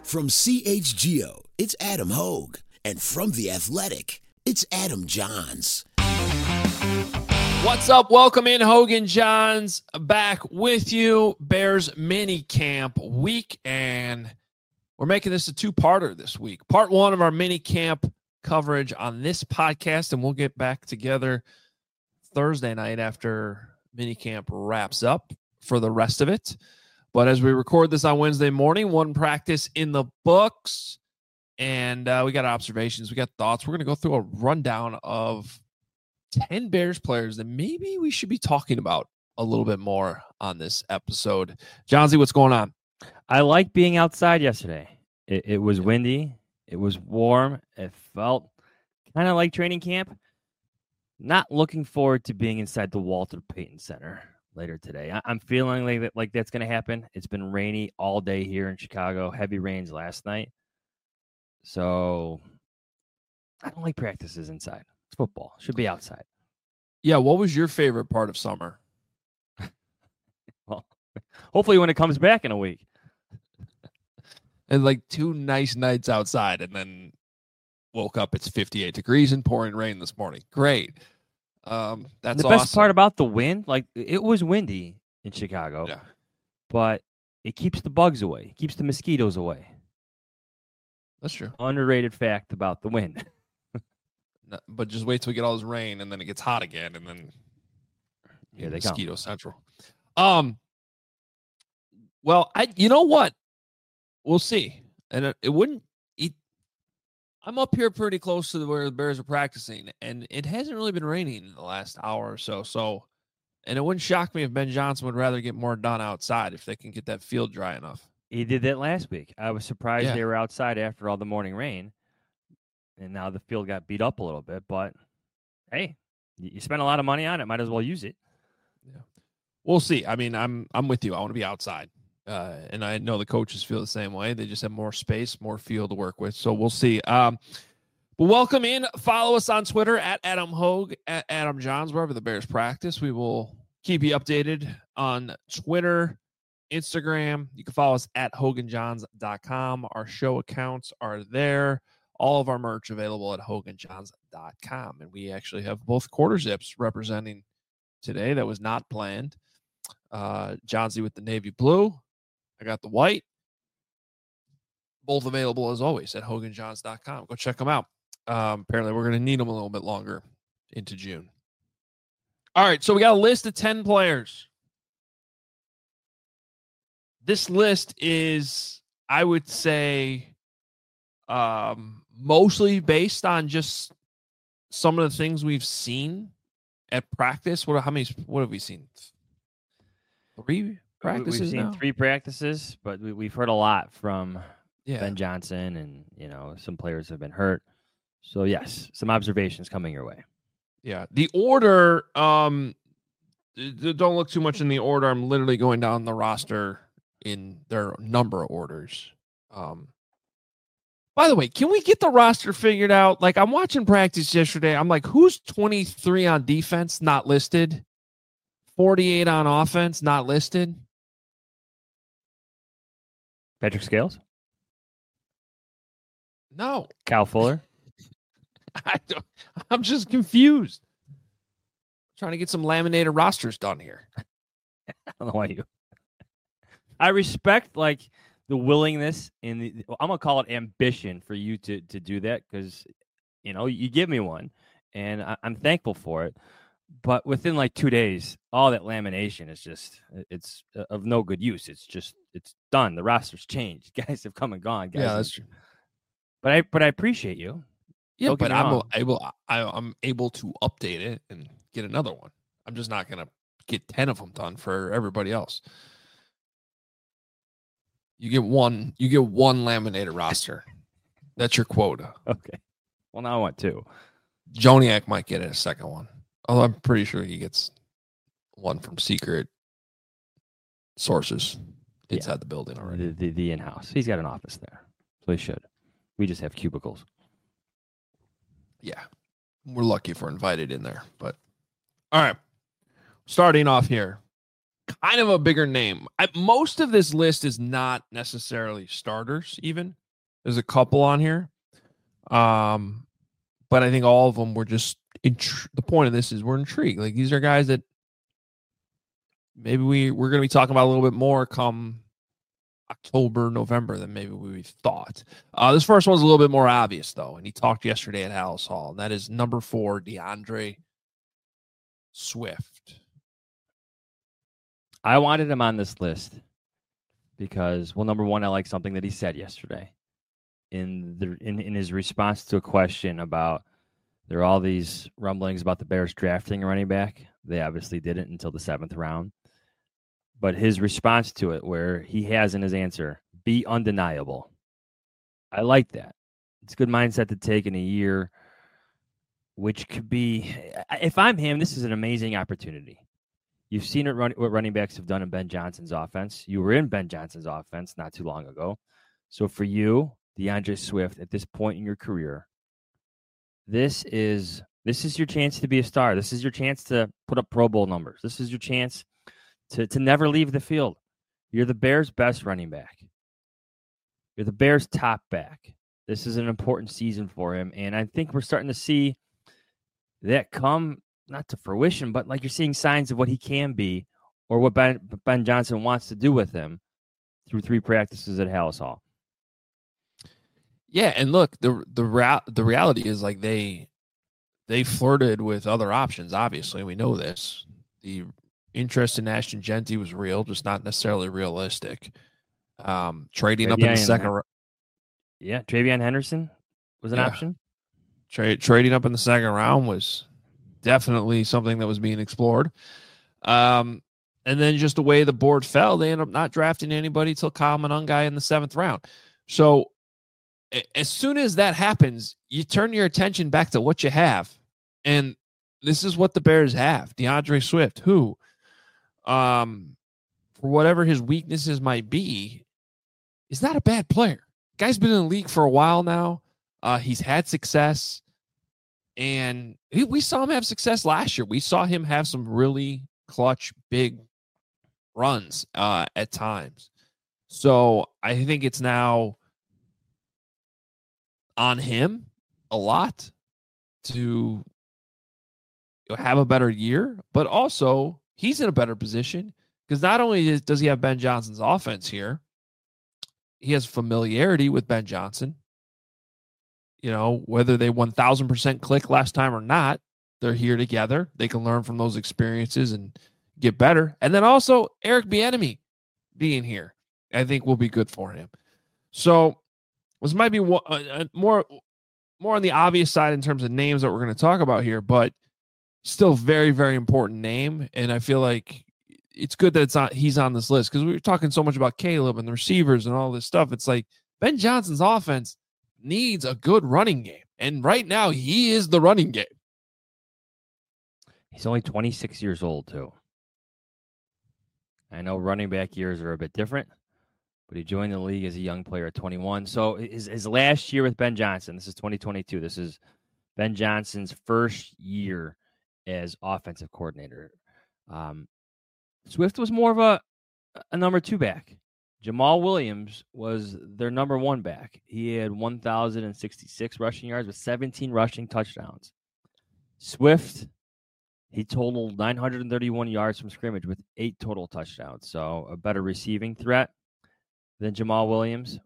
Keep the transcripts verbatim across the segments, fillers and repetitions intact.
From C H G O, it's Adam Hogue. And from The Athletic, it's Adam Johns. What's up? Welcome in, Hogan Johns, back with you. Bears mini camp week, and we're making this a two-parter this week. Part one of our mini camp coverage on this podcast, and we'll get back together Thursday night after mini camp wraps up for the rest of it. But as we record this on Wednesday morning, one practice in the books, and uh, we got observations, we got thoughts. We're going to go through a rundown of ten Bears players that maybe we should be talking about a little bit more on this episode. Johnsy, what's going on? I like being outside yesterday. It, it was windy. It was warm. It felt kind of like training camp. Not looking forward to being inside the Walter Payton Center later today. I, I'm feeling like, that, like that's going to happen. It's been rainy all day here in Chicago. Heavy rains last night. So I don't like practices inside. It's football. Should be outside. Yeah, what was your favorite part of summer? Well, hopefully when it comes back in a week. And like two nice nights outside, and then woke up, it's fifty-eight degrees and pouring rain this morning. Great. Um, that's the best awesome. part about the wind, like it was windy in Chicago, yeah. but it keeps the bugs away. It keeps the mosquitoes away. That's true. Underrated fact about the wind. No, but just wait till we get all this rain, and then it gets hot again, and then yeah, they mosquito come. central. Um. Well, I you know what? We'll see, and it, it wouldn't. It, I'm up here pretty close to where the Bears are practicing, and it hasn't really been raining in the last hour or so. So, and it wouldn't shock me if Ben Johnson would rather get more done outside if they can get that field dry enough. He did that last week. I was surprised Yeah. they were outside after all the morning rain. And now the field got beat up a little bit, but hey, you spent a lot of money on it. Might as well use it. Yeah, we'll see. I mean, I'm I'm with you. I want to be outside, uh, and I know the coaches feel the same way. They just have more space, more field to work with. So we'll see. Um, but welcome in. Follow us on Twitter at Adam Hogue, at Adam Johns, wherever the Bears practice. We will keep you updated on Twitter, Instagram. You can follow us at hogan johns dot com. Our show accounts are there. All of our merch available at hogan johns dot com. And we actually have both quarter zips representing today. That was not planned. Uh, Johnsy with the navy blue. I got the white. Both available, as always, at hogan johns dot com. Go check them out. Um, apparently, we're going to need them a little bit longer into June. All right, so we got a list of ten players. This list is, I would say, um, mostly based on just some of the things we've seen at practice. What? How many? What have we seen? Three practices. We've seen now? three practices, but we, we've heard a lot from yeah. Ben Johnson, and you know some players have been hurt. So yes, some observations coming your way. Yeah, the order. Um, don't look too much in the order. I'm literally going down the roster in their number of orders. Um. By the way, can we get the roster figured out? Like, I'm watching practice yesterday. I'm like, who's twenty-three on defense, not listed? forty-eight on offense, not listed? Patrick Scales? No. Kyle Fuller? I don't, I'm just confused. Trying to get some laminated rosters done here. I don't know why you. I respect, like, the willingness and the, I'm gonna call it ambition for you to to do that, because you know you give me one, and I, I'm thankful for it. But within like two days, all that lamination is just it's of no good use. It's just it's done. The roster's changed. Guys have come and gone. Guys Yeah, have, that's true. But I but I appreciate you. Yeah, Don't get but me I'm wrong. able I, I'm able to update it and get another one. I'm just not gonna get ten of them done for everybody else. You get one. You get one laminated roster. That's your quota. Okay. Well, now I want two. Joniak might get a second one. Although I'm pretty sure he gets one from secret sources inside Yeah. the building already. The, the, the in-house. He's got an office there, so he should. We just have cubicles. Yeah. We're lucky if we're invited in there. But all right. Starting off here. kind of a bigger name. I, most of this list is not necessarily starters even. There's a couple on here. Um, but I think all of them were just intri- the point of this is we're intrigued. Like these are guys that maybe we, we're going to be talking about a little bit more come October, November than maybe we thought. Uh, this first one's a little bit more obvious, though, and he talked yesterday at Halas Hall, and that is number four, DeAndre Swift. I wanted him on this list because, well, number one, I like something that he said yesterday in the in, in his response to a question about there are all these rumblings about the Bears drafting a running back. They obviously didn't until the seventh round. But his response to it, where he has in his answer, be undeniable. I like that. It's a good mindset to take in a year, which could be, if I'm him, this is an amazing opportunity. You've seen it run, what running backs have done in Ben Johnson's offense. You were in Ben Johnson's offense not too long ago. So for you, DeAndre Swift, at this point in your career, this is this is your chance to be a star. This is your chance to put up Pro Bowl numbers. This is your chance To, to never leave the field. You're the Bears' best running back. You're the Bears' top back. This is an important season for him, and I think we're starting to see that come, not to fruition, but like you're seeing signs of what he can be or what Ben, Ben Johnson wants to do with him through three practices at Halas Hall. Yeah, and look, the the rea- the reality is like they they flirted with other options, obviously. We know this. The interest in Ashton Jeanty was real, just not necessarily realistic. Um, trading up in the second round. Yeah, Travion Henderson was an yeah. option. Tra- trading up in the second round was definitely something that was being explored. Um, and then just the way the board fell, they ended up not drafting anybody till Kyle Monangai in the seventh round. So a- as soon as that happens, you turn your attention back to what you have. And this is what the Bears have. DeAndre Swift, who Um, for whatever his weaknesses might be, is not a bad player. Guy's been in the league for a while now. Uh, he's had success, and he, we saw him have success last year. We saw him have some really clutch, big runs uh, at times. So I think it's now on him a lot to have a better year, but also he's in a better position because not only does he have Ben Johnson's offense here, he has familiarity with Ben Johnson. You know, whether they one thousand percent click last time or not, they're here together. They can learn from those experiences and get better. And then also Eric Bieniemy being here, I think will be good for him. So this might be more, uh, more, more on the obvious side in terms of names that we're going to talk about here, but still very, very important name. And I feel like it's good that it's on, he's on this list because we were talking so much about Caleb and the receivers and all this stuff. It's like Ben Johnson's offense needs a good running game. And right now he is the running game. He's only twenty-six years old too. I know running back years are a bit different, but he joined the league as a young player at twenty-one. So his, his last year with Ben Johnson, this is twenty twenty-two. This is Ben Johnson's first year as offensive coordinator. Um, Swift was more of a, a number two back. Jamal Williams was their number one back. He had one thousand sixty-six rushing yards with seventeen rushing touchdowns. Swift, he totaled nine hundred thirty-one yards from scrimmage with eight total touchdowns. So a better receiving threat than Jamal Williams.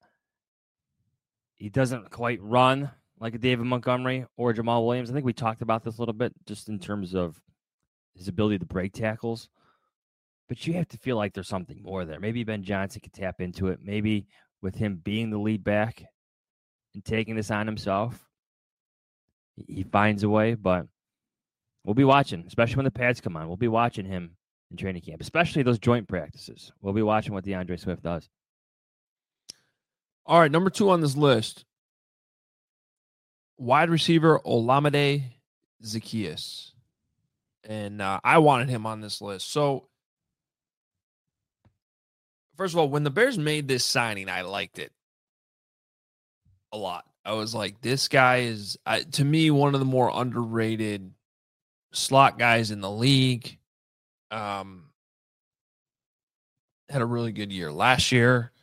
He doesn't quite run like a David Montgomery or Jamal Williams. I think we talked about this a little bit just in terms of his ability to break tackles. But you have to feel like there's something more there. Maybe Ben Johnson could tap into it. Maybe with him being the lead back and taking this on himself, he finds a way. But we'll be watching, especially when the pads come on. We'll be watching him in training camp, especially those joint practices. We'll be watching what DeAndre Swift does. All right, number two on this list, wide receiver Olamide Zaccheaus. And uh, I wanted him on this list. So, first of all, when the Bears made this signing, I liked it a lot. I was like, this guy is, uh, to me, one of the more underrated slot guys in the league. Um, had a really good year last year.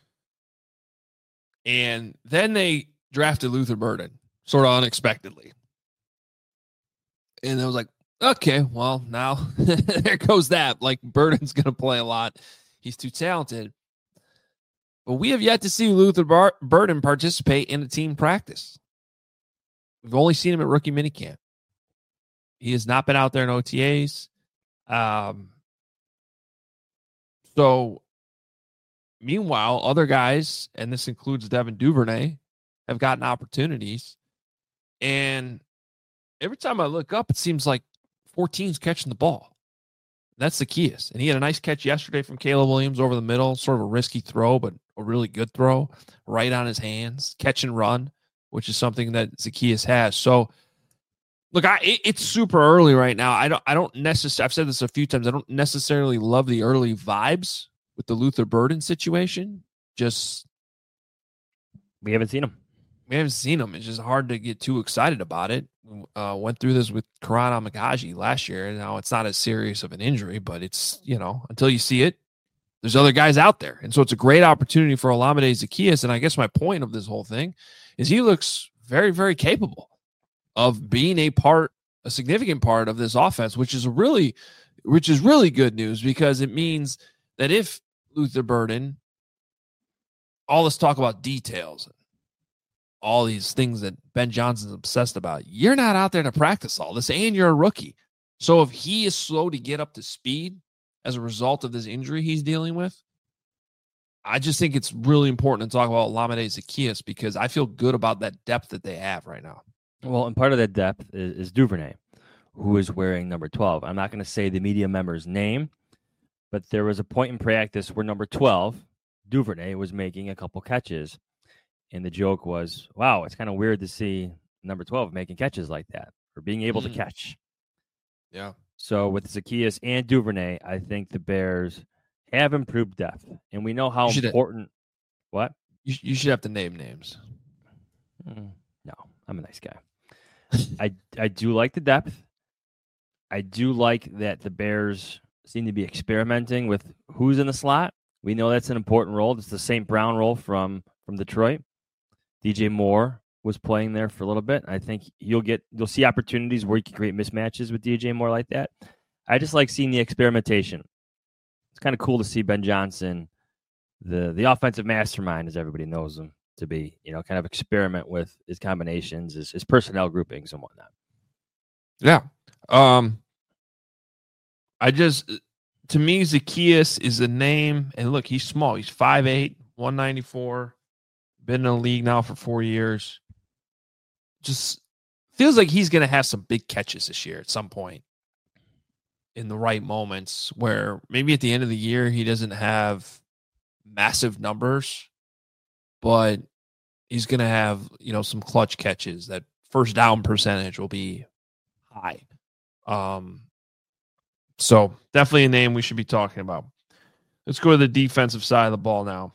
And then they drafted Luther Burden, sort of unexpectedly. And I was like, okay, well, now there goes that. Like, Burden's going to play a lot. He's too talented. But we have yet to see Luther Bar- Burden participate in a team practice. We've only seen him at rookie minicamp. He has not been out there in O T As. Um, so, meanwhile, other guys, and this includes Devin Duvernay, have gotten opportunities. And every time I look up, it seems like fourteen's catching the ball. That's Zaccheaus. And he had a nice catch yesterday from Caleb Williams over the middle, sort of a risky throw, but a really good throw, right on his hands, catch and run, which is something that Zaccheaus has. So, look, I it, it's super early right now. I don't I don't necessarily, I've said this a few times, I don't necessarily love the early vibes with the Luther Burden situation. Just we haven't seen him. We haven't seen him. It's just hard to get too excited about it. Uh, went through this with Karan Amagaji last year. Now it's not as serious of an injury, but it's, you know, until you see it, there's other guys out there. And so it's a great opportunity for Olamide Zaccheaus. And I guess my point of this whole thing is he looks very, very capable of being a part, a significant part of this offense, which is really, which is really good news, because it means that if Luther Burden, all this talk about details, all these things that Ben Johnson's obsessed about, you're not out there to practice all this, and you're a rookie. So if he is slow to get up to speed as a result of this injury he's dealing with, I just think it's really important to talk about Olamide Zaccheaus, because I feel good about that depth that they have right now. Well, and part of that depth is, is Duvernay, who is wearing number twelve. I'm not going to say the media member's name, but there was a point in practice where number twelve, Duvernay, was making a couple catches. And the joke was, wow, it's kind of weird to see number twelve making catches like that, or being able mm. to catch. Yeah. So with Zaccheaus and Duvernay, I think the Bears have improved depth. And we know how important. Have, what? You, you should have to name names. Mm, no, I'm a nice guy. I, I do like the depth. I do like that the Bears seem to be experimenting with who's in the slot. We know that's an important role. It's the Saint Brown role from, from Detroit. D J Moore was playing there for a little bit. I think you'll get you'll see opportunities where you can create mismatches with D J Moore like that. I just like seeing the experimentation. It's kind of cool to see Ben Johnson, the the offensive mastermind, as everybody knows him to be, you know, kind of experiment with his combinations, his, his personnel groupings and whatnot. Yeah. Um, I just, to me, Zaccheaus is a name, and look, he's small. He's five eight, one ninety-four. Been in the league now for four years. Just feels like he's going to have some big catches this year at some point in the right moments, where maybe at the end of the year he doesn't have massive numbers, but he's going to have, you know, some clutch catches. That first down percentage will be high. Um, so definitely a name we should be talking about. Let's go to the defensive side of the ball now.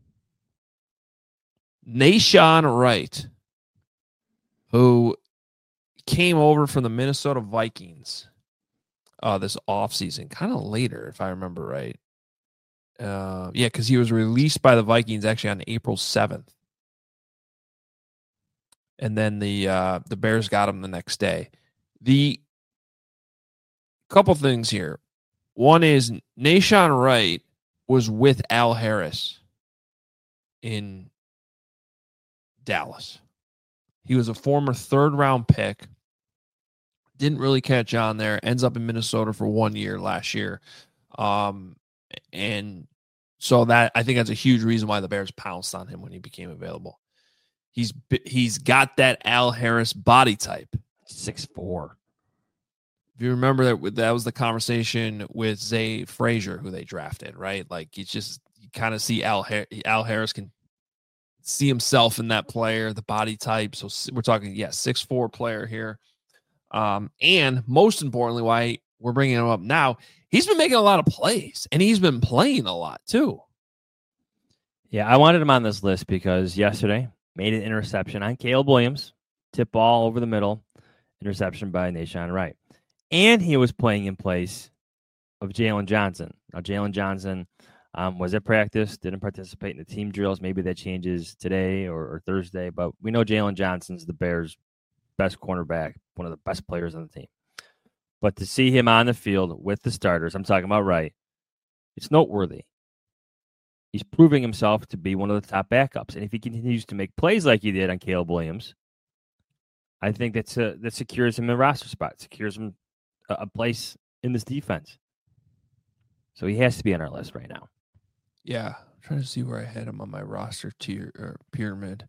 Nahshon Wright, who came over from the Minnesota Vikings uh, this offseason, kind of later, if I remember right. Uh, yeah, because he was released by the Vikings actually on April seventh. And then the uh, the Bears got him the next day. The couple things here. One is Nahshon Wright was with Al Harris in Dallas. He was a former third round pick. Didn't really catch on there. Ends up in Minnesota for one year last year. Um, and so that, I think that's a huge reason why the Bears pounced on him when he became available. He's he's got that Al Harris body type. six foot four. If you remember that, that was the conversation with Zay Frazier, who they drafted, right? Like, it's just, you kind of see Al, Al Harris can see himself in that player, the body type. So we're talking, yeah, six foot four player here. Um, and most importantly, why we're bringing him up now, he's been making a lot of plays, and he's been playing a lot too. Yeah, I wanted him on this list because yesterday made an interception on Caleb Williams, tip ball over the middle, interception by Nahshon Wright. And he was playing in place of Jalen Johnson. Now, Jalen Johnson Um, was at practice, didn't participate in the team drills. Maybe that changes today or, or Thursday, but we know Jalen Johnson's the Bears' best cornerback, one of the best players on the team. But to see him on the field with the starters, I'm talking about right, it's noteworthy. He's proving himself to be one of the top backups. And if he continues to make plays like he did on Caleb Williams, I think that's a, that secures him a roster spot, secures him a, a place in this defense. So he has to be on our list right now. Yeah, I'm trying to see where I had him on my roster tier or pyramid.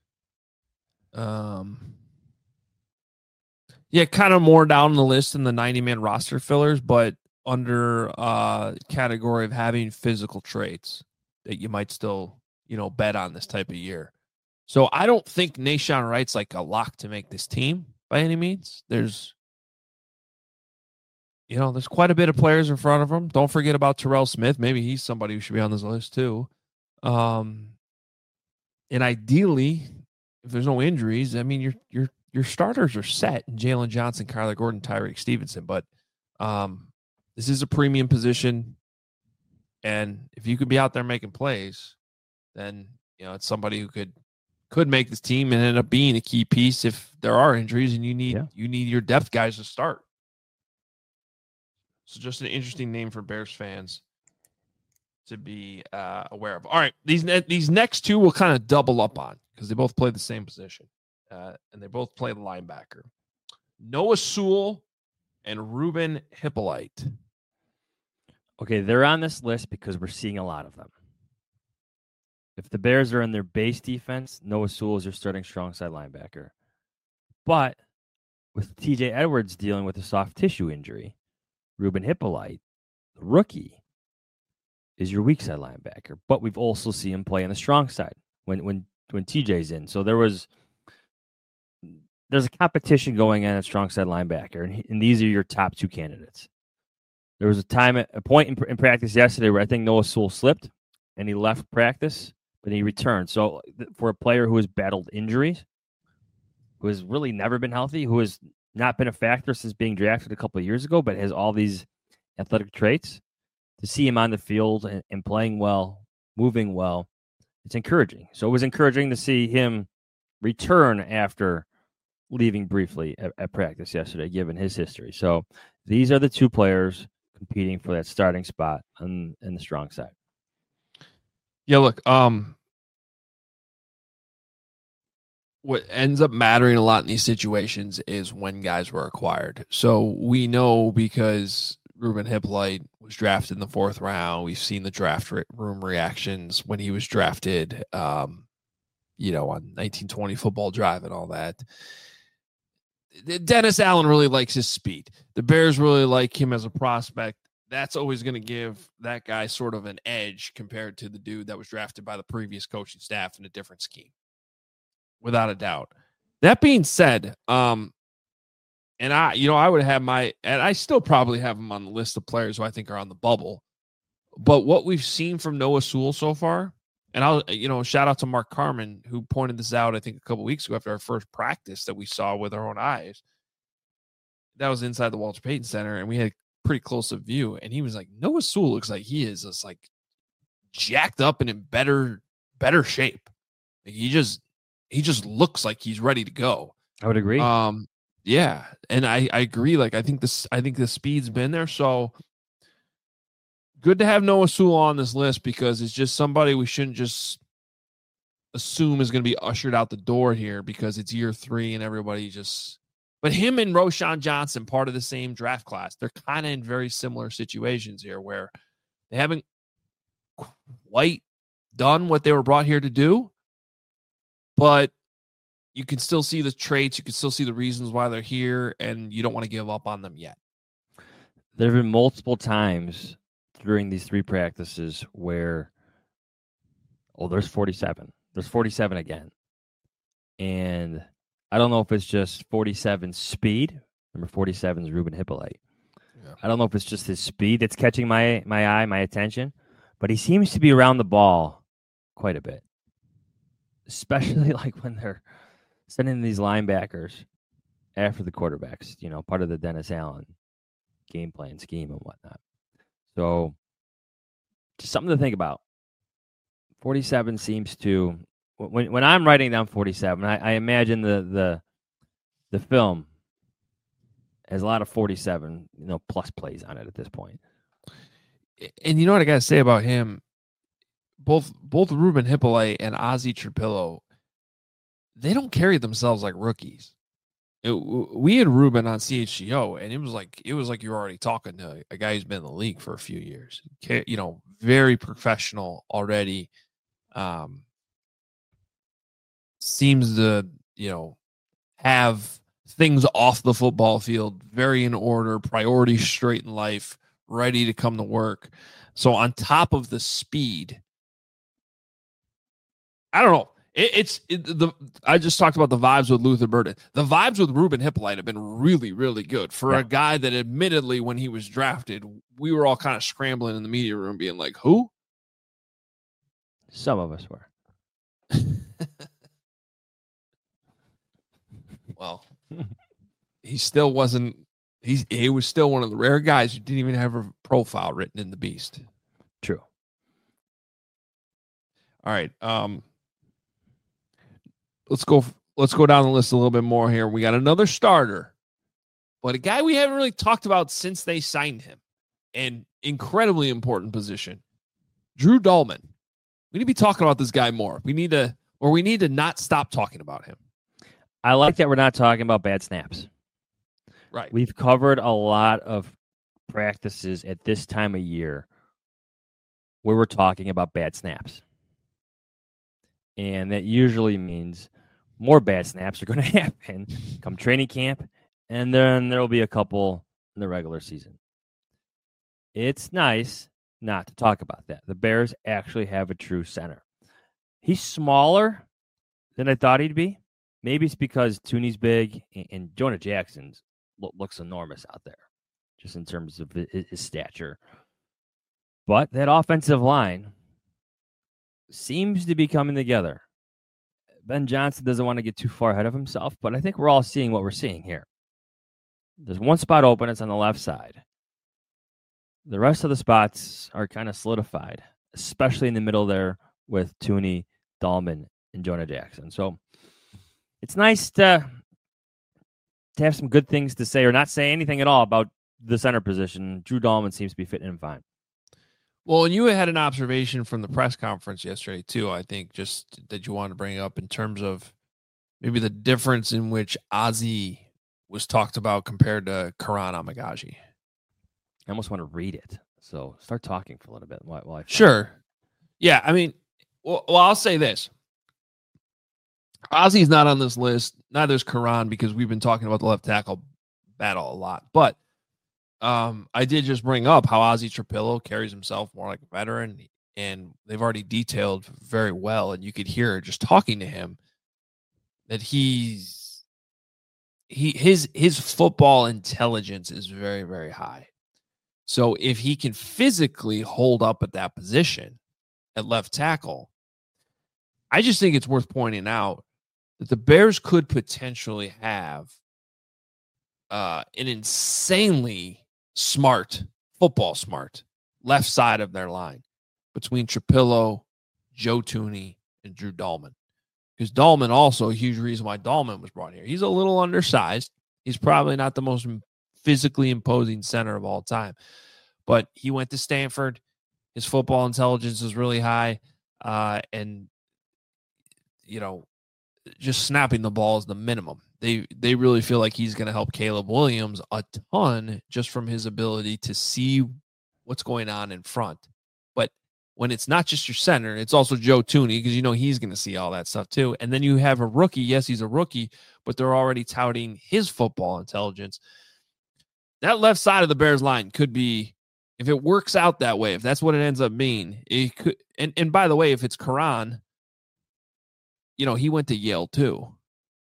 Um, yeah, kind of more down the list than the ninety-man roster fillers, but under uh category of having physical traits that you might still, you know, bet on this type of year. So I don't think Nahshon Wright's like a lock to make this team by any means. There's, you know, there's quite a bit of players in front of him. Don't forget about Terrell Smith. Maybe he's somebody who should be on this list too. Um, and ideally, if there's no injuries, I mean, your your your starters are set. Jalen Johnson, Kyler Gordon, Tyreek Stevenson. But um, this is a premium position, and if you could be out there making plays, then you know it's somebody who could could make this team and end up being a key piece if there are injuries and you need yeah. you need your depth guys to start. So just an interesting name for Bears fans to be uh, aware of. All right, these ne- these next two will kind of double up on because they both play the same position, uh, and they both play the linebacker. Noah Sewell and Ruben Hippolyte. Okay, they're on this list because we're seeing a lot of them. If the Bears are in their base defense, Noah Sewell is their starting strong side linebacker. But with T J Edwards dealing with a soft tissue injury, Ruben Hippolyte, the rookie, is your weak side linebacker. But we've also seen him play on the strong side when when when T J's in. So there was there's a competition going on at strong side linebacker, and, and these are your top two candidates. There was a time, a point in, in practice yesterday where I think Noah Sewell slipped, and he left practice, but he returned. So for a player who has battled injuries, who has really never been healthy, who has not been a factor since being drafted a couple of years ago, but has all these athletic traits, to see him on the field and, and playing well, moving well, it's encouraging. So it was encouraging to see him return after leaving briefly at, at practice yesterday, given his history. So these are the two players competing for that starting spot on, on the strong side. Yeah, look, um, what ends up mattering a lot in these situations is when guys were acquired. So we know because Ruben Hippolyte was drafted in the fourth round. We've seen the draft room reactions when he was drafted, um, you know, on nineteen twenty Football Drive and all that. Dennis Allen really likes his speed. The Bears really like him as a prospect. That's always going to give that guy sort of an edge compared to the dude that was drafted by the previous coaching staff in a different scheme, without a doubt. That being said, um, and I, you know, I would have my, and I still probably have him on the list of players who I think are on the bubble. But what we've seen from Noah Sewell so far, and I'll, you know, shout out to Mark Carman, who pointed this out, I think, a couple weeks ago after our first practice that we saw with our own eyes. That was inside the Walter Payton Center, and we had pretty close of view. And he was like, Noah Sewell looks like he is just like jacked up and in better, better shape. Like he just, he just looks like he's ready to go. I would agree. Um, yeah. And I, I agree. Like, I think this, I think the speed's been there. So good to have Noah Sewell on this list because it's just somebody we shouldn't just assume is going to be ushered out the door here because it's year three and everybody just, but him and Roschon Johnson, part of the same draft class, they're kind of in very similar situations here where they haven't quite done what they were brought here to do, but you can still see the traits. You can still see the reasons why they're here, and you don't want to give up on them yet. There have been multiple times during these three practices where, oh, there's forty-seven. There's forty-seven again. And I don't know if it's just forty-seven speed. Number forty-seven is Ruben Hippolyte. Yeah. I don't know if it's just his speed that's catching my my eye, my attention, but he seems to be around the ball quite a bit, especially like when they're sending these linebackers after the quarterbacks, you know, part of the Dennis Allen game plan scheme and whatnot. So just something to think about. forty-seven seems to when when I'm writing down forty-seven, I, I imagine the the the film has a lot of forty-seven, you know, plus plays on it at this point. And you know what I got to say about him? Both both Ruben Hippolyte and Ozzie Trapilo, they don't carry themselves like rookies. It, we had Ruben on C H G O, and it was like it was like you were already talking to a guy who's been in the league for a few years. You know, very professional already. Um, seems to you know have things off the football field very in order, priorities straight in life, ready to come to work. So on top of the speed, I don't know. It, it's it, the I just talked about the vibes with Luther Burden. The vibes with Ruben Hippolyte have been really, really good for yeah. a guy that admittedly, when he was drafted, we were all kind of scrambling in the media room being like, who? Some of us were. Well, he still wasn't. He's he was still one of the rare guys who didn't even have a profile written in the Beast. True. All right. Um. Let's go. Let's go down the list a little bit more here. We got another starter, but a guy we haven't really talked about since they signed him. An incredibly important position, Drew Dalman. We need to be talking about this guy more. We need to, or we need to not stop talking about him. I like that we're not talking about bad snaps. Right. We've covered a lot of practices at this time of year where we're talking about bad snaps. And that usually means more bad snaps are going to happen come training camp, and then there will be a couple in the regular season. It's nice not to talk about that. The Bears actually have a true center. He's smaller than I thought he'd be. Maybe it's because Tooney's big and, and Jonah Jackson's lo- looks enormous out there, just in terms of his, his stature. But that offensive line seems to be coming together. Ben Johnson doesn't want to get too far ahead of himself, but I think we're all seeing what we're seeing here. There's one spot open. It's on the left side. The rest of the spots are kind of solidified, especially in the middle there with Tooney, Dalman, and Jonah Jackson. So it's nice to, to have some good things to say or not say anything at all about the center position. Drew Dalman seems to be fitting in fine. Well, and you had an observation from the press conference yesterday, too, I think, just that you wanted to bring up in terms of maybe the difference in which Ozzie was talked about compared to Karan Amagaji. I almost want to read it. So start talking for a little bit. While, while I sure. It. Yeah, I mean, well, well, I'll say this. Ozzie's not on this list. Neither is Karan, because we've been talking about the left tackle battle a lot. But Um, I did just bring up how Ozzie Trapilo carries himself more like a veteran, and they've already detailed very well, and you could hear just talking to him that he's he his his football intelligence is very, very high. So if he can physically hold up at that position at left tackle, I just think it's worth pointing out that the Bears could potentially have uh, an insanely smart, football smart, left side of their line between Trapilo, Joe Tooney, and Drew Dalman. Because Dalman also, a huge reason why Dalman was brought here. He's a little undersized. He's probably not the most physically imposing center of all time. But he went to Stanford. His football intelligence is really high. Uh, and, you know, just snapping the ball is the minimum. They they really feel like he's going to help Caleb Williams a ton just from his ability to see what's going on in front. But when it's not just your center, it's also Joe Tooney, because you know he's going to see all that stuff too. And then you have a rookie. Yes, he's a rookie, but they're already touting his football intelligence. That left side of the Bears line could be, if it works out that way, if that's what it ends up being, it could. And, and by the way, if it's Karan, you know, he went to Yale too.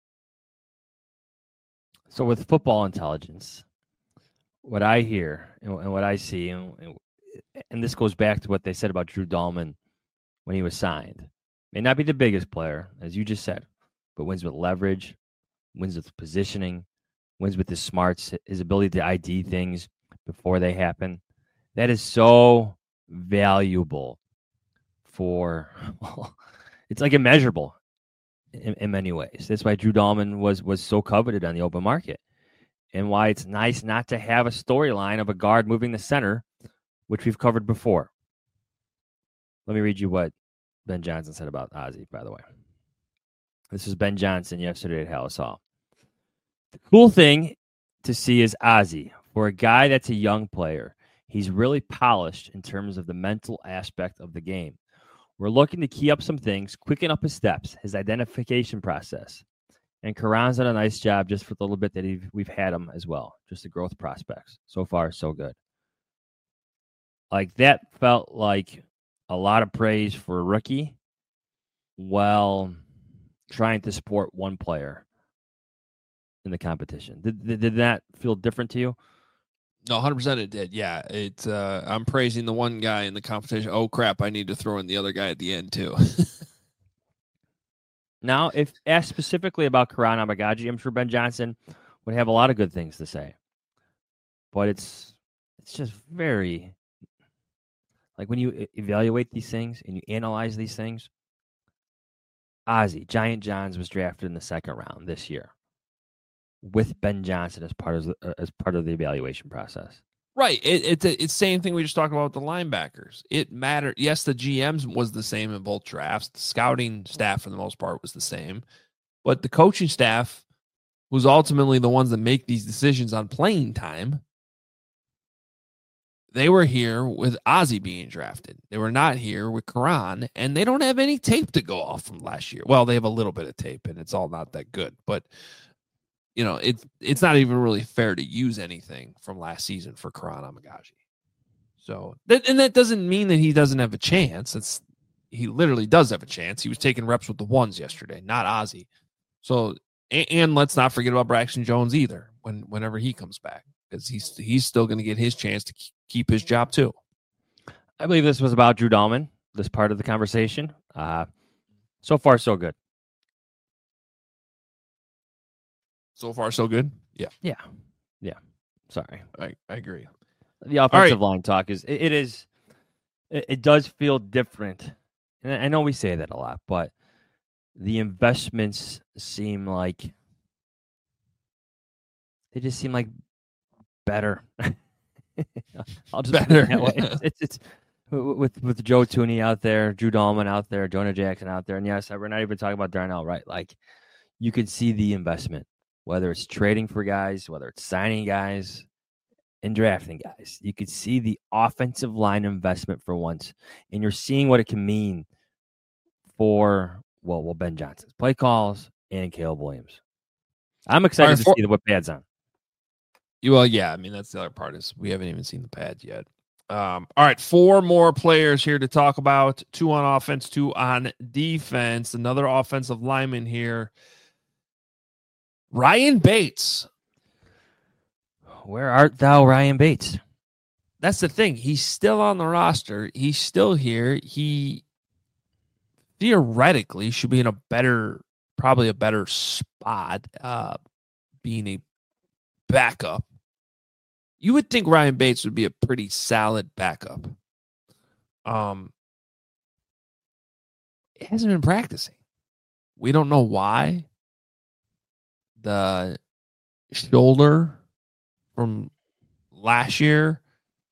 So with football intelligence, what I hear and, and what I see, and, and this goes back to what they said about Drew Dalman when he was signed. May not be the biggest player, as you just said, but wins with leverage, wins with positioning, wins with his smarts, his ability to I D things before they happen. That is so valuable for, well, it's like immeasurable in, in many ways. That's why Drew Dahlman was was so coveted on the open market, and why it's nice not to have a storyline of a guard moving the center, which we've covered before. Let me read you what Ben Johnson said about Ozzie, by the way. This is Ben Johnson yesterday at Halas Hall. The cool thing to see is Ozzie. For a guy that's a young player, he's really polished in terms of the mental aspect of the game. We're looking to key up some things, quicken up his steps, his identification process. And Karan's done a nice job just for the little bit that he, we've had him as well. Just the growth prospects. So far, so good. Like, that felt like a lot of praise for a rookie while trying to support one player in the competition. Did, did, did that feel different to you? No, one hundred percent it did. Yeah, it. Uh, I'm praising the one guy in the competition. Oh, crap, I need to throw in the other guy at the end, too. Now, if asked specifically about Karan Amagaji, I'm sure Ben Johnson would have a lot of good things to say. But it's it's just very, like when you evaluate these things and you analyze these things, Ozzie, Giant Johns was drafted in the second round this year with Ben Johnson as part of the, as part of the evaluation process. Right. It, it's a, it's same thing we just talked about with the linebackers. It mattered. Yes, the G Ms was the same in both drafts. The scouting staff, for the most part, was the same. But the coaching staff, who's ultimately the ones that make these decisions on playing time, they were here with Ozzie being drafted. They were not here with Karan, and they don't have any tape to go off from last year. Well, they have a little bit of tape, and it's all not that good. But you know, it's it's not even really fair to use anything from last season for Karan Amagaji. So, that, and that doesn't mean that he doesn't have a chance. It's he literally does have a chance. He was taking reps with the ones yesterday, not Ozzie. So, and, and let's not forget about Braxton Jones either. When whenever he comes back, because he's he's still going to get his chance to keep his job too. I believe this was about Drew Dahlman. This part of the conversation. Uh, so far, so good. So far, so good. Yeah. Yeah. Yeah. Sorry. I, I agree. The offensive line talk is, it, it is, it, it does feel different. And I know we say that a lot, but the investments seem like, they just seem like better. I'll just better. Put it that way. It's, it's, it's with, with Joe Tooney out there, Drew Dahlman out there, Jonah Jackson out there. And yes, we're not even talking about Darnell, right? Like, you can see the investment. Whether it's trading for guys, whether it's signing guys and drafting guys, you could see the offensive line investment for once, and you're seeing what it can mean for, well, well Ben Johnson's play calls and Caleb Williams. I'm excited right, for, to see the whip pads on. Well, yeah, I mean, that's the other part is we haven't even seen the pads yet. Um, all right, four more players here to talk about, two on offense, two on defense. Another offensive lineman here. Ryan Bates. Where art thou, Ryan Bates? That's the thing. He's still on the roster. He's still here. He theoretically should be in a better, probably a better spot, uh, being a backup. You would think Ryan Bates would be a pretty solid backup. Um, he hasn't been practicing. We don't know why. The shoulder from last year,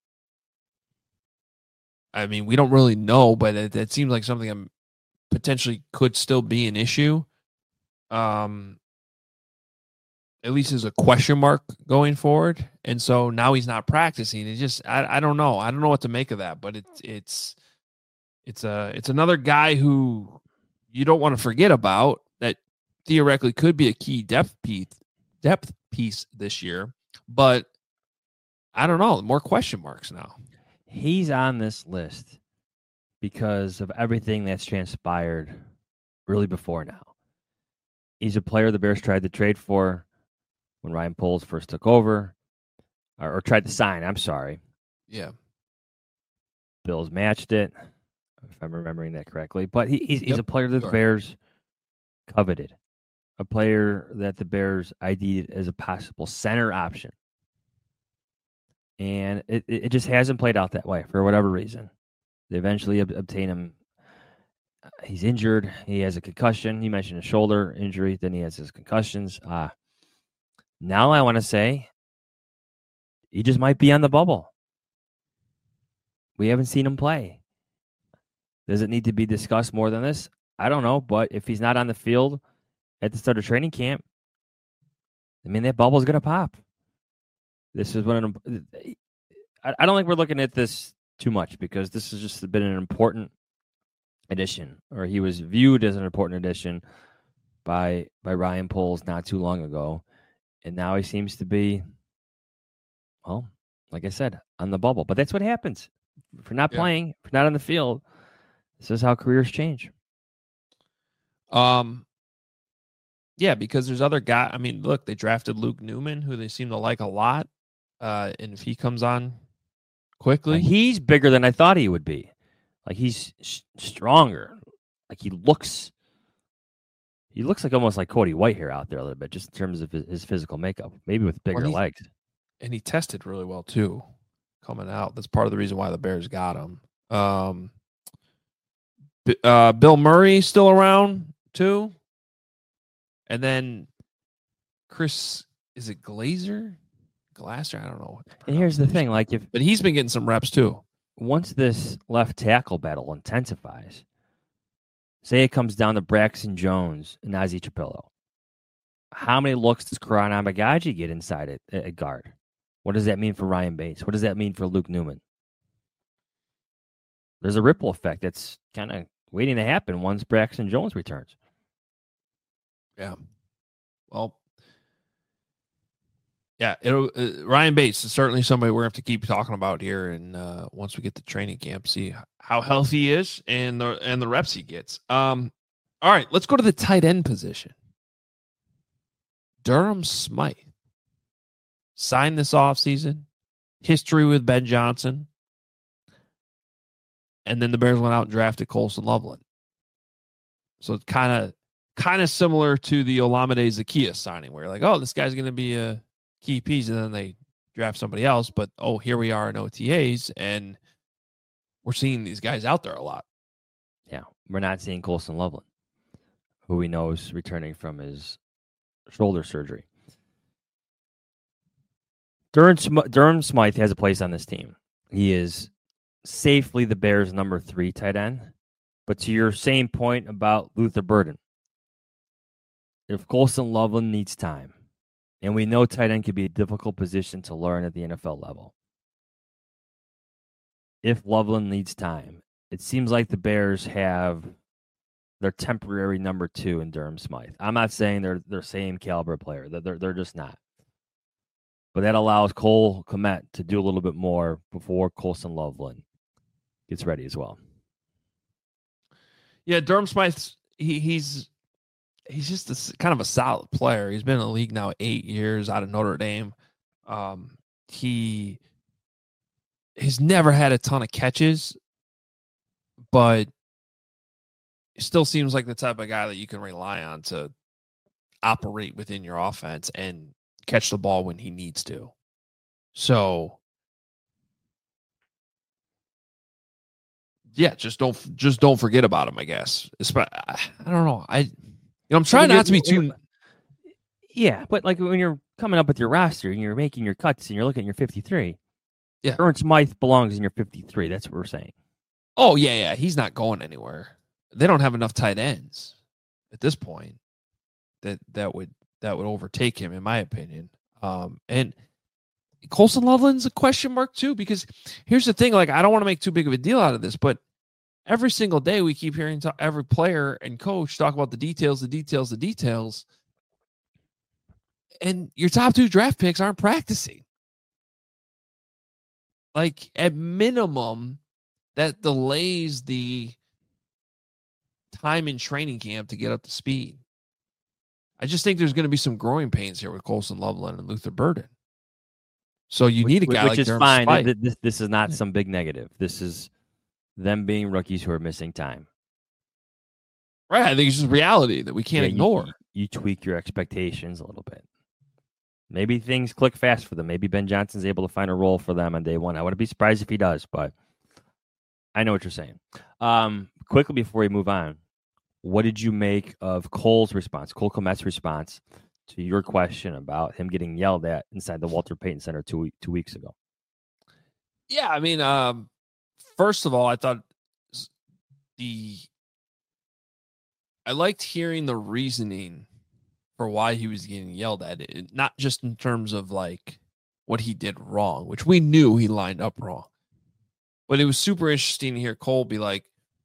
I mean, we don't really know, but it, it seems like something that potentially could still be an issue. Um, at least as a question mark going forward. And so now he's not practicing. It just, I, I don't know. I don't know what to make of that, but it's, it's, it's a, it's another guy who you don't want to forget about that theoretically could be a key depth piece, depth piece this year, but I don't know, more question marks now. He's on this list because of everything that's transpired really before now. He's a player the Bears tried to trade for when Ryan Poles first took over, or, or tried to sign, I'm sorry. Yeah. Bills matched it, if I'm remembering that correctly. But he, he's, he's yep. a player that sure. the Bears coveted. A player that the Bears I D'd as a possible center option. And it, it just hasn't played out that way for whatever reason. They eventually ob- obtain him. He's injured. He has a concussion. He mentioned a shoulder injury. Then he has his concussions. Uh, now I want to say he just might be on the bubble. We haven't seen him play. Does it need to be discussed more than this? I don't know. But if he's not on the field at the start of training camp, I mean, that bubble's going to pop. This is one of them. I don't think we're looking at this too much because this has just been an important addition, or he was viewed as an important addition by by Ryan Poles not too long ago, and now he seems to be, well, like I said, on the bubble. But that's what happens if you're not Yeah. playing, if you're not on the field. This is how careers change. Um, yeah, because there's other guys. I mean, look, they drafted Luke Newman, who they seem to like a lot, uh, and if he comes on quickly, He's bigger than I thought he would be. Like he's sh- stronger. Like he looks, he looks like almost like Cody Whitehair out there a little bit, just in terms of his, his physical makeup. Maybe with bigger Well, he- legs. and he tested really well too, coming out. That's part of the reason why the Bears got him. Um, B- uh, Bill Murray still around too, and then Chris, is it Glazer, Glasser? I don't know. And here's the thing: like if But he's been getting some reps too. once this left tackle battle intensifies, say it comes down to Braxton Jones and Ozzie Chapillo, how many looks does Karan Amagaji get inside at, at guard? What does that mean for Ryan Bates? What does that mean for Luke Newman? There's a ripple effect that's kind of waiting to happen once Braxton Jones returns. Yeah. Well, yeah, it'll, uh, Ryan Bates is certainly somebody we're going to have to keep talking about here. And uh, once we get to training camp, see how healthy he is and the, and the reps he gets. Um, all right, let's go to the tight end position. Durham Smythe signed this offseason, history with Ben Johnson. And then the Bears went out and drafted Colson Loveland. So it's kind of kind of similar to the Olamide Zaccheaus signing, where you're like, oh, this guy's going to be a key piece, and then they draft somebody else. But, oh, here we are in O T As, and we're seeing these guys out there a lot. Yeah, we're not seeing Colson Loveland, who we know is returning from his shoulder surgery. Durham, Sm- Durham Smythe has a place on this team. He is safely the Bears' number three tight end. But to your same point about Luther Burden, if Colson Loveland needs time, and we know tight end can be a difficult position to learn at the N F L level, if Loveland needs time, it seems like the Bears have their temporary number two in Durham Smythe. I'm not saying they're the same caliber player. They're, they're, they're just not. But that allows Cole Kmet to do a little bit more before Colson Loveland gets ready as well. Yeah, Durham Smythe, he, he's he's just a, kind of a solid player. He's been in the league now eight years out of Notre Dame. Um, he he's never had a ton of catches, but he still seems like the type of guy that you can rely on to operate within your offense and catch the ball when he needs to. So, yeah, just don't just don't forget about him, I guess. I don't know. I you know I'm trying not to be too. Yeah, but like when you're coming up with your roster and you're making your cuts and you're looking at your fifty-three, yeah, Durham Smythe belongs in your fifty-three. That's what we're saying. Oh yeah, yeah, he's not going anywhere. They don't have enough tight ends at this point that that would that would overtake him, in my opinion. Um, and Colson Loveland's a question mark too, because here's the thing: like, I don't want to make too big of a deal out of this, but every single day we keep hearing to every player and coach talk about the details, the details, the details, and your top two draft picks aren't practicing. Like, at minimum, that delays the time in training camp to get up to speed. I just think there's going to be some growing pains here with Colson Loveland and Luther Burden. So you which, need a guy which like is Durham fine. Smythe. This, this, this is not some big negative. This is them being rookies who are missing time. Right. I think it's just reality that we can't Yeah, ignore. You, you tweak your expectations a little bit. Maybe things click fast for them. Maybe Ben Johnson's able to find a role for them on day one. I wouldn't be surprised if he does, but I know what you're saying. Um, quickly before we move on, what did you make of Cole's response, Cole Kmet's response to your question about him getting yelled at inside the Walter Payton Center two two weeks ago? Yeah, I mean, um, first of all, I thought the I liked hearing the reasoning for why he was getting yelled at, it, not just in terms of like what he did wrong, which we knew he lined up wrong. But it was super interesting to hear Cole be like,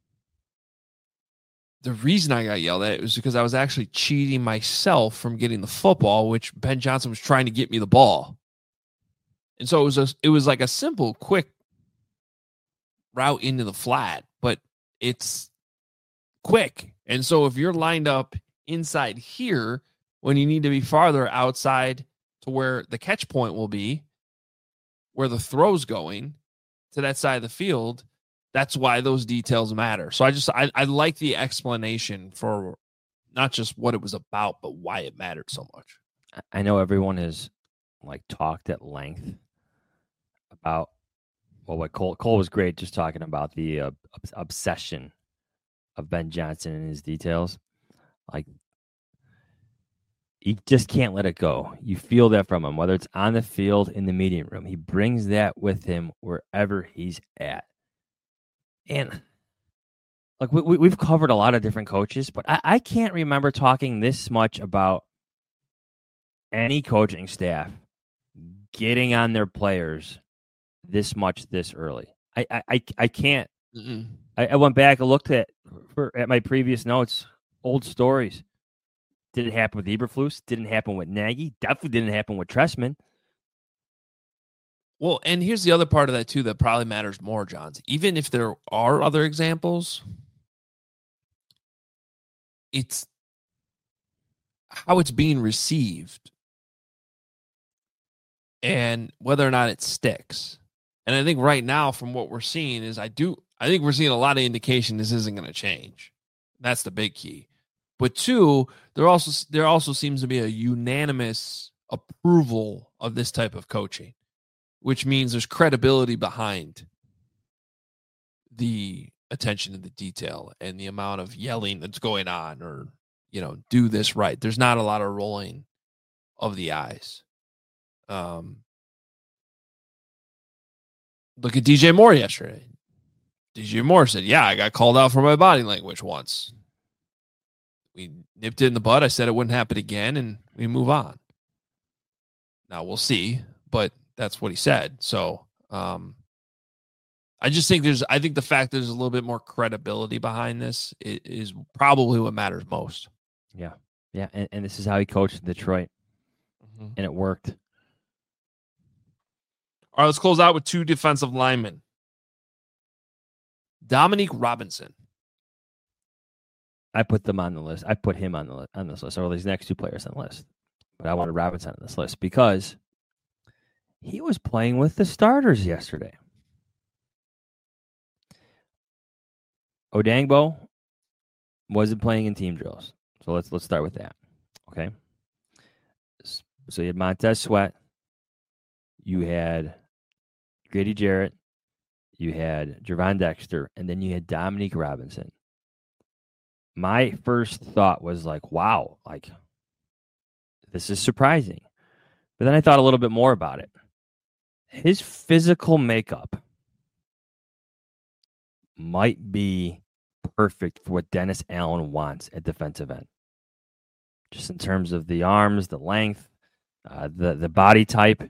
the reason I got yelled at was because I was actually cheating myself from getting the football, which Ben Johnson was trying to get me the ball. And so it was a, it was like a simple, quick route into the flat, but it's quick. And so if you're lined up inside here when you need to be farther outside to where the catch point will be, where the throw's going to that side of the field, that's why those details matter. So I just, I, I like the explanation for not just what it was about, but why it mattered so much. I know everyone has like talked at length about, well, what Cole, Cole was great just talking about the uh, obsession of Ben Johnson and his details. Like, he just can't let it go. You feel that from him, whether it's on the field, in the meeting room. He brings that with him wherever he's at. And like we, we've covered a lot of different coaches, but I, I can't remember talking this much about any coaching staff getting on their players this much this early. I I, I, I can't. I, I went back and looked at for, at my previous notes, old stories. Did it happen with Eberflus? Didn't happen with Nagy. Definitely didn't happen with Trestman. Well, and here's the other part of that, too, that probably matters more, Johns. Even if there are other examples, it's how it's being received and whether or not it sticks. And I think right now, from what we're seeing, is I do I think we're seeing a lot of indication this isn't going to change. That's the big key. But two, there also there also seems to be a unanimous approval of this type of coaching, which means there's credibility behind the attention to the detail and the amount of yelling that's going on, or, you know, do this right. There's not a lot of rolling of the eyes. Um, look at D J Moore yesterday. D J Moore said, yeah, I got called out for my body language once. We nipped it in the bud. I said it wouldn't happen again, and we move on. Now we'll see, but that's what he said. So um, I just think there's, I think the fact there's a little bit more credibility behind this is, is probably what matters most. Yeah. Yeah. And, and this is how he coached in Detroit, mm-hmm. and it worked. All right, let's close out with two defensive linemen. Dominique Robinson. I put them on the list. I put him on the on this list, or these next two players on the list. But I wanted Robinson on this list because he was playing with the starters yesterday. Odangbo wasn't playing in team drills. So let's let's start with that. Okay. So you had Montez Sweat. You had Grady Jarrett. You had Gervon Dexter. And then you had Dominique Robinson. My first thought was like, wow, like, this is surprising. But then I thought a little bit more about it. His physical makeup might be perfect for what Dennis Allen wants at defensive end. Just in terms of the arms, the length, uh, the, the body type.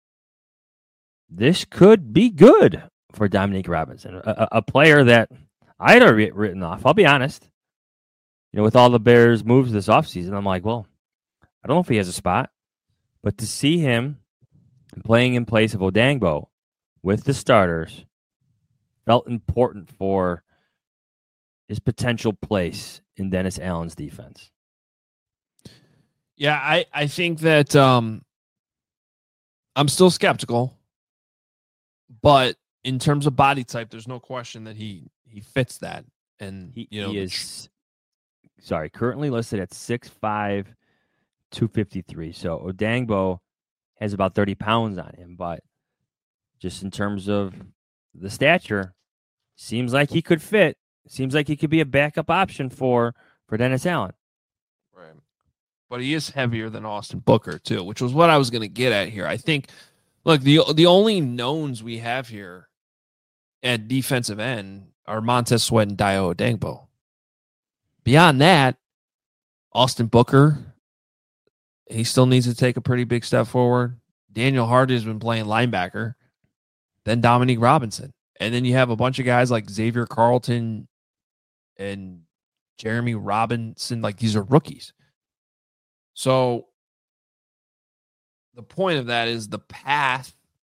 This could be good for Dominique Robinson, a, a player that I had already written off. I'll be honest. You know, with all the Bears' moves this offseason, I'm like, well, I don't know if he has a spot. But to see him playing in place of Odangbo with the starters felt important for his potential place in Dennis Allen's defense. Yeah, I, I think that um, I'm still skeptical. But in terms of body type, there's no question that he, he fits that. And he, you know, he is... Sorry, currently listed at six five, two fifty-three. So Odangbo has about thirty pounds on him, but just in terms of the stature, seems like he could fit. Seems like he could be a backup option for for Dennis Allen. Right. But he is heavier than Austin Booker, too, which was what I was going to get at here. I think, look, the the only knowns we have here at defensive end are Montez Sweat and Dayo Odangbo. Beyond that, Austin Booker, he still needs to take a pretty big step forward. Daniel Hardy has been playing linebacker, then Dominique Robinson. And then you have a bunch of guys like Xavier Carlton and Jeremy Robinson. Like, these are rookies. So the point of that is the path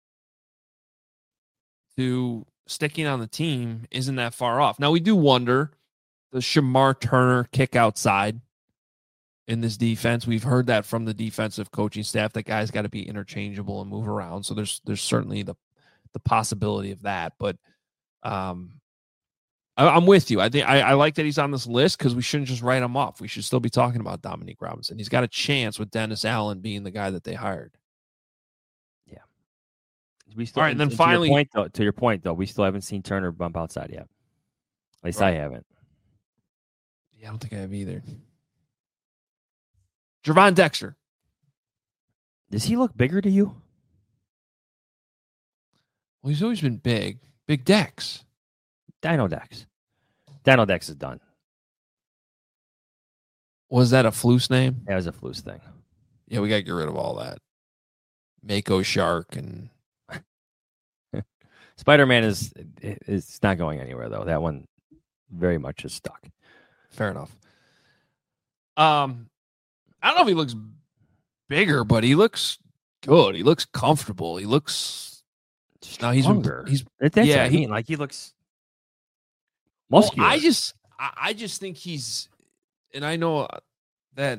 to sticking on the team isn't that far off. Now, we do wonder, does Shamar Turner kick outside in this defense? We've heard that from the defensive coaching staff, that guys got to be interchangeable and move around. So there's there's certainly the the possibility of that. But um, I, I'm with you. I think I, I like that he's on this list, because we shouldn't just write him off. We should still be talking about Dominique Robinson. He's got a chance with Dennis Allen being the guy that they hired. Yeah. We still, All right, and then to finally, your point, though, to your point, though, we still haven't seen Turner bump outside yet. At least right. I haven't. Yeah, I don't think I have either. Gervon Dexter. Does he look bigger to you? Well, he's always been big. Big Dex. Dino Dex. Dino Dex is done. Was that a Flus name? That was a Flus thing. Yeah, we got to get rid of all that. Mako Shark and Spider-Man is it's not going anywhere, though. That one very much is stuck. Fair enough. Um, I don't know if he looks bigger, but he looks good. He looks comfortable. He looks. Now he's Stronger. he's That's yeah. what I He, mean, like he looks well, muscular. I just I, I just think he's, and I know that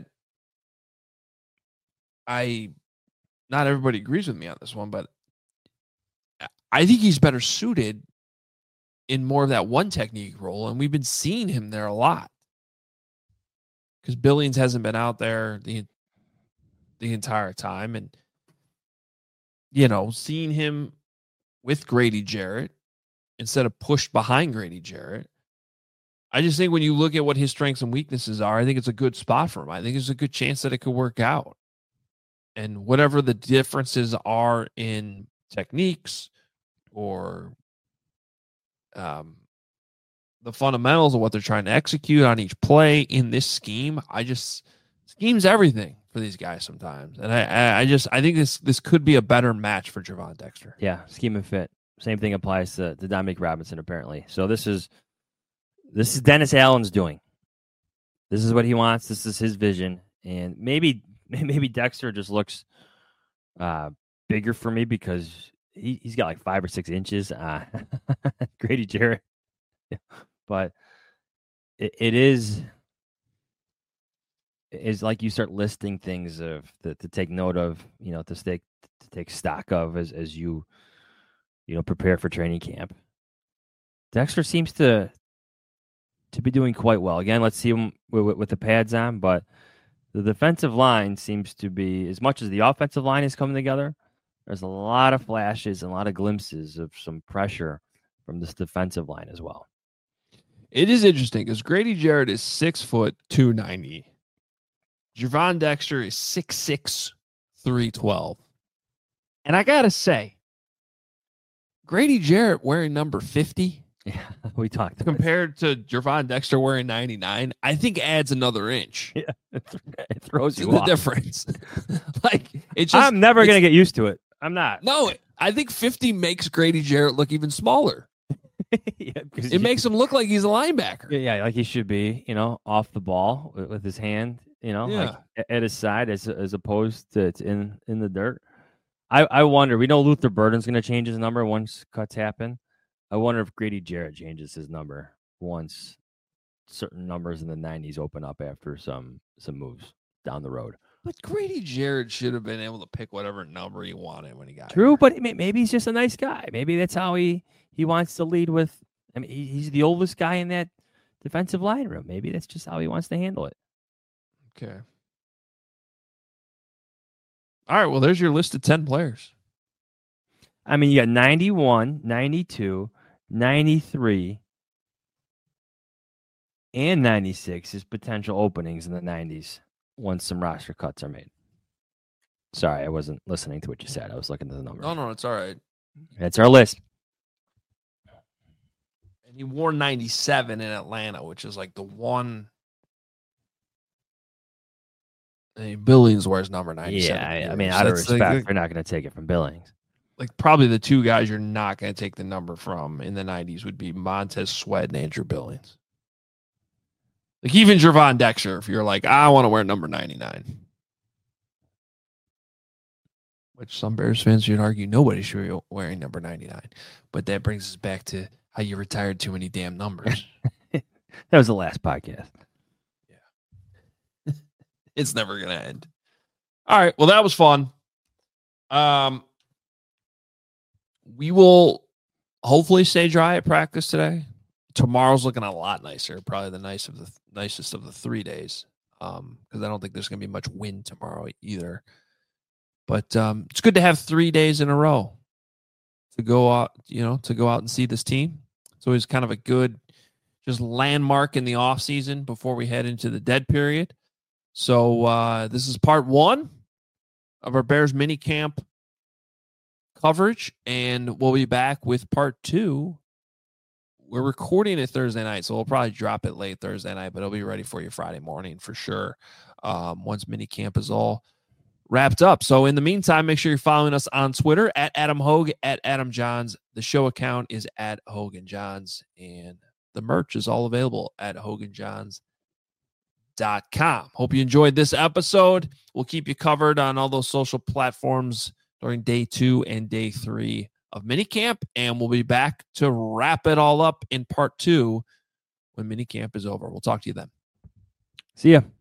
I not everybody agrees with me on this one, but I think he's better suited in more of that one technique role, and we've been seeing him there a lot because Billings hasn't been out there the the entire time, and you know, seeing him with Grady Jarrett instead of pushed behind Grady Jarrett. I just think when you look at what his strengths and weaknesses are, I think it's a good spot for him. I think there's a good chance that it could work out. And whatever the differences are in techniques or um, the fundamentals of what they're trying to execute on each play in this scheme, I just scheme's everything for these guys sometimes. And I, I, I just, I think this, this could be a better match for Gervon Dexter. Yeah. Scheme and fit. Same thing applies to, to Dominique Robinson, apparently. So this is, this is Dennis Allen's doing. This is what he wants. This is his vision. And maybe, maybe Dexter just looks uh, bigger for me because he, he's got like five or six inches. Uh, Grady Jarrett. But it, it is, is like you start listing things of the, to take note of, you know, to take to take stock of as as you, you know, prepare for training camp. Dexter seems to to be doing quite well. Again, let's see him with, with the pads on, but the defensive line seems to be, as much as the offensive line is coming together, there's a lot of flashes and a lot of glimpses of some pressure from this defensive line as well. It is interesting because Grady Jarrett is six foot two ninety. Gervon Dexter is six six, three twelve. And I gotta say, Grady Jarrett wearing number fifty, yeah, we talked compared to Gervon Dexter wearing ninety-nine, I think adds another inch. Yeah, it throws you the off. difference. Like it's just, I'm never gonna get used to it. I'm not. No, I think fifty makes Grady Jarrett look even smaller. Yeah, it you, makes him look like he's a linebacker. Yeah, like he should be, you know, off the ball with, with his hand, you know, yeah. like at his side as as opposed to, to in in the dirt. I, I wonder. We know Luther Burden's going to change his number once cuts happen. I wonder if Grady Jarrett changes his number once certain numbers in the nineties open up after some some moves down the road. But Grady Jarrett should have been able to pick whatever number he wanted when he got True, here. but maybe he's just a nice guy. Maybe that's how he, he wants to lead with. I mean, he's the oldest guy in that defensive line room. Maybe that's just how he wants to handle it. Okay. All right, well, there's your list of ten players. I mean, you got ninety-one, ninety-two, ninety-three, and ninety-six is potential openings in the nineties once some roster cuts are made. Sorry, I wasn't listening to what you said. I was looking at the numbers. No, no, it's all right. That's our list. And he wore ninety-seven in Atlanta, which is like the one. I mean, Billings wears number ninety-seven. Yeah, I, I mean, out of respect, like, we're not going to take it from Billings. Like, probably the two guys you're not going to take the number from in the nineties would be Montez Sweat and Andrew Billings. Like, even Gervon Dexter, if you're like, I want to wear number ninety-nine. Which some Bears fans would argue nobody should be wearing number ninety-nine. But that brings us back to how you retired too many damn numbers. That was the last podcast. Yeah. It's never going to end. All right. Well, that was fun. Um, we will hopefully stay dry at practice today. Tomorrow's looking a lot nicer. Probably the nice of the nicest of the three days. Um, because I don't think there's going to be much wind tomorrow either. But um, it's good to have three days in a row to go out, you know, to go out and see this team. It's always kind of a good just landmark in the off season before we head into the dead period. So uh, this is part one of our Bears mini camp coverage, and we'll be back with part two. We're recording it Thursday night, so we'll probably drop it late Thursday night, but it'll be ready for you Friday morning for sure. Um, once mini camp is all wrapped up. So in the meantime, make sure you're following us on Twitter at Adam Hogue, at Adam Johns. The show account is at Hogan Johns, and the merch is all available at hogan johns dot com. Hope you enjoyed this episode. We'll keep you covered on all those social platforms during day two and day three of minicamp, and we'll be back to wrap it all up in part two when minicamp is over. We'll talk to you then. See ya.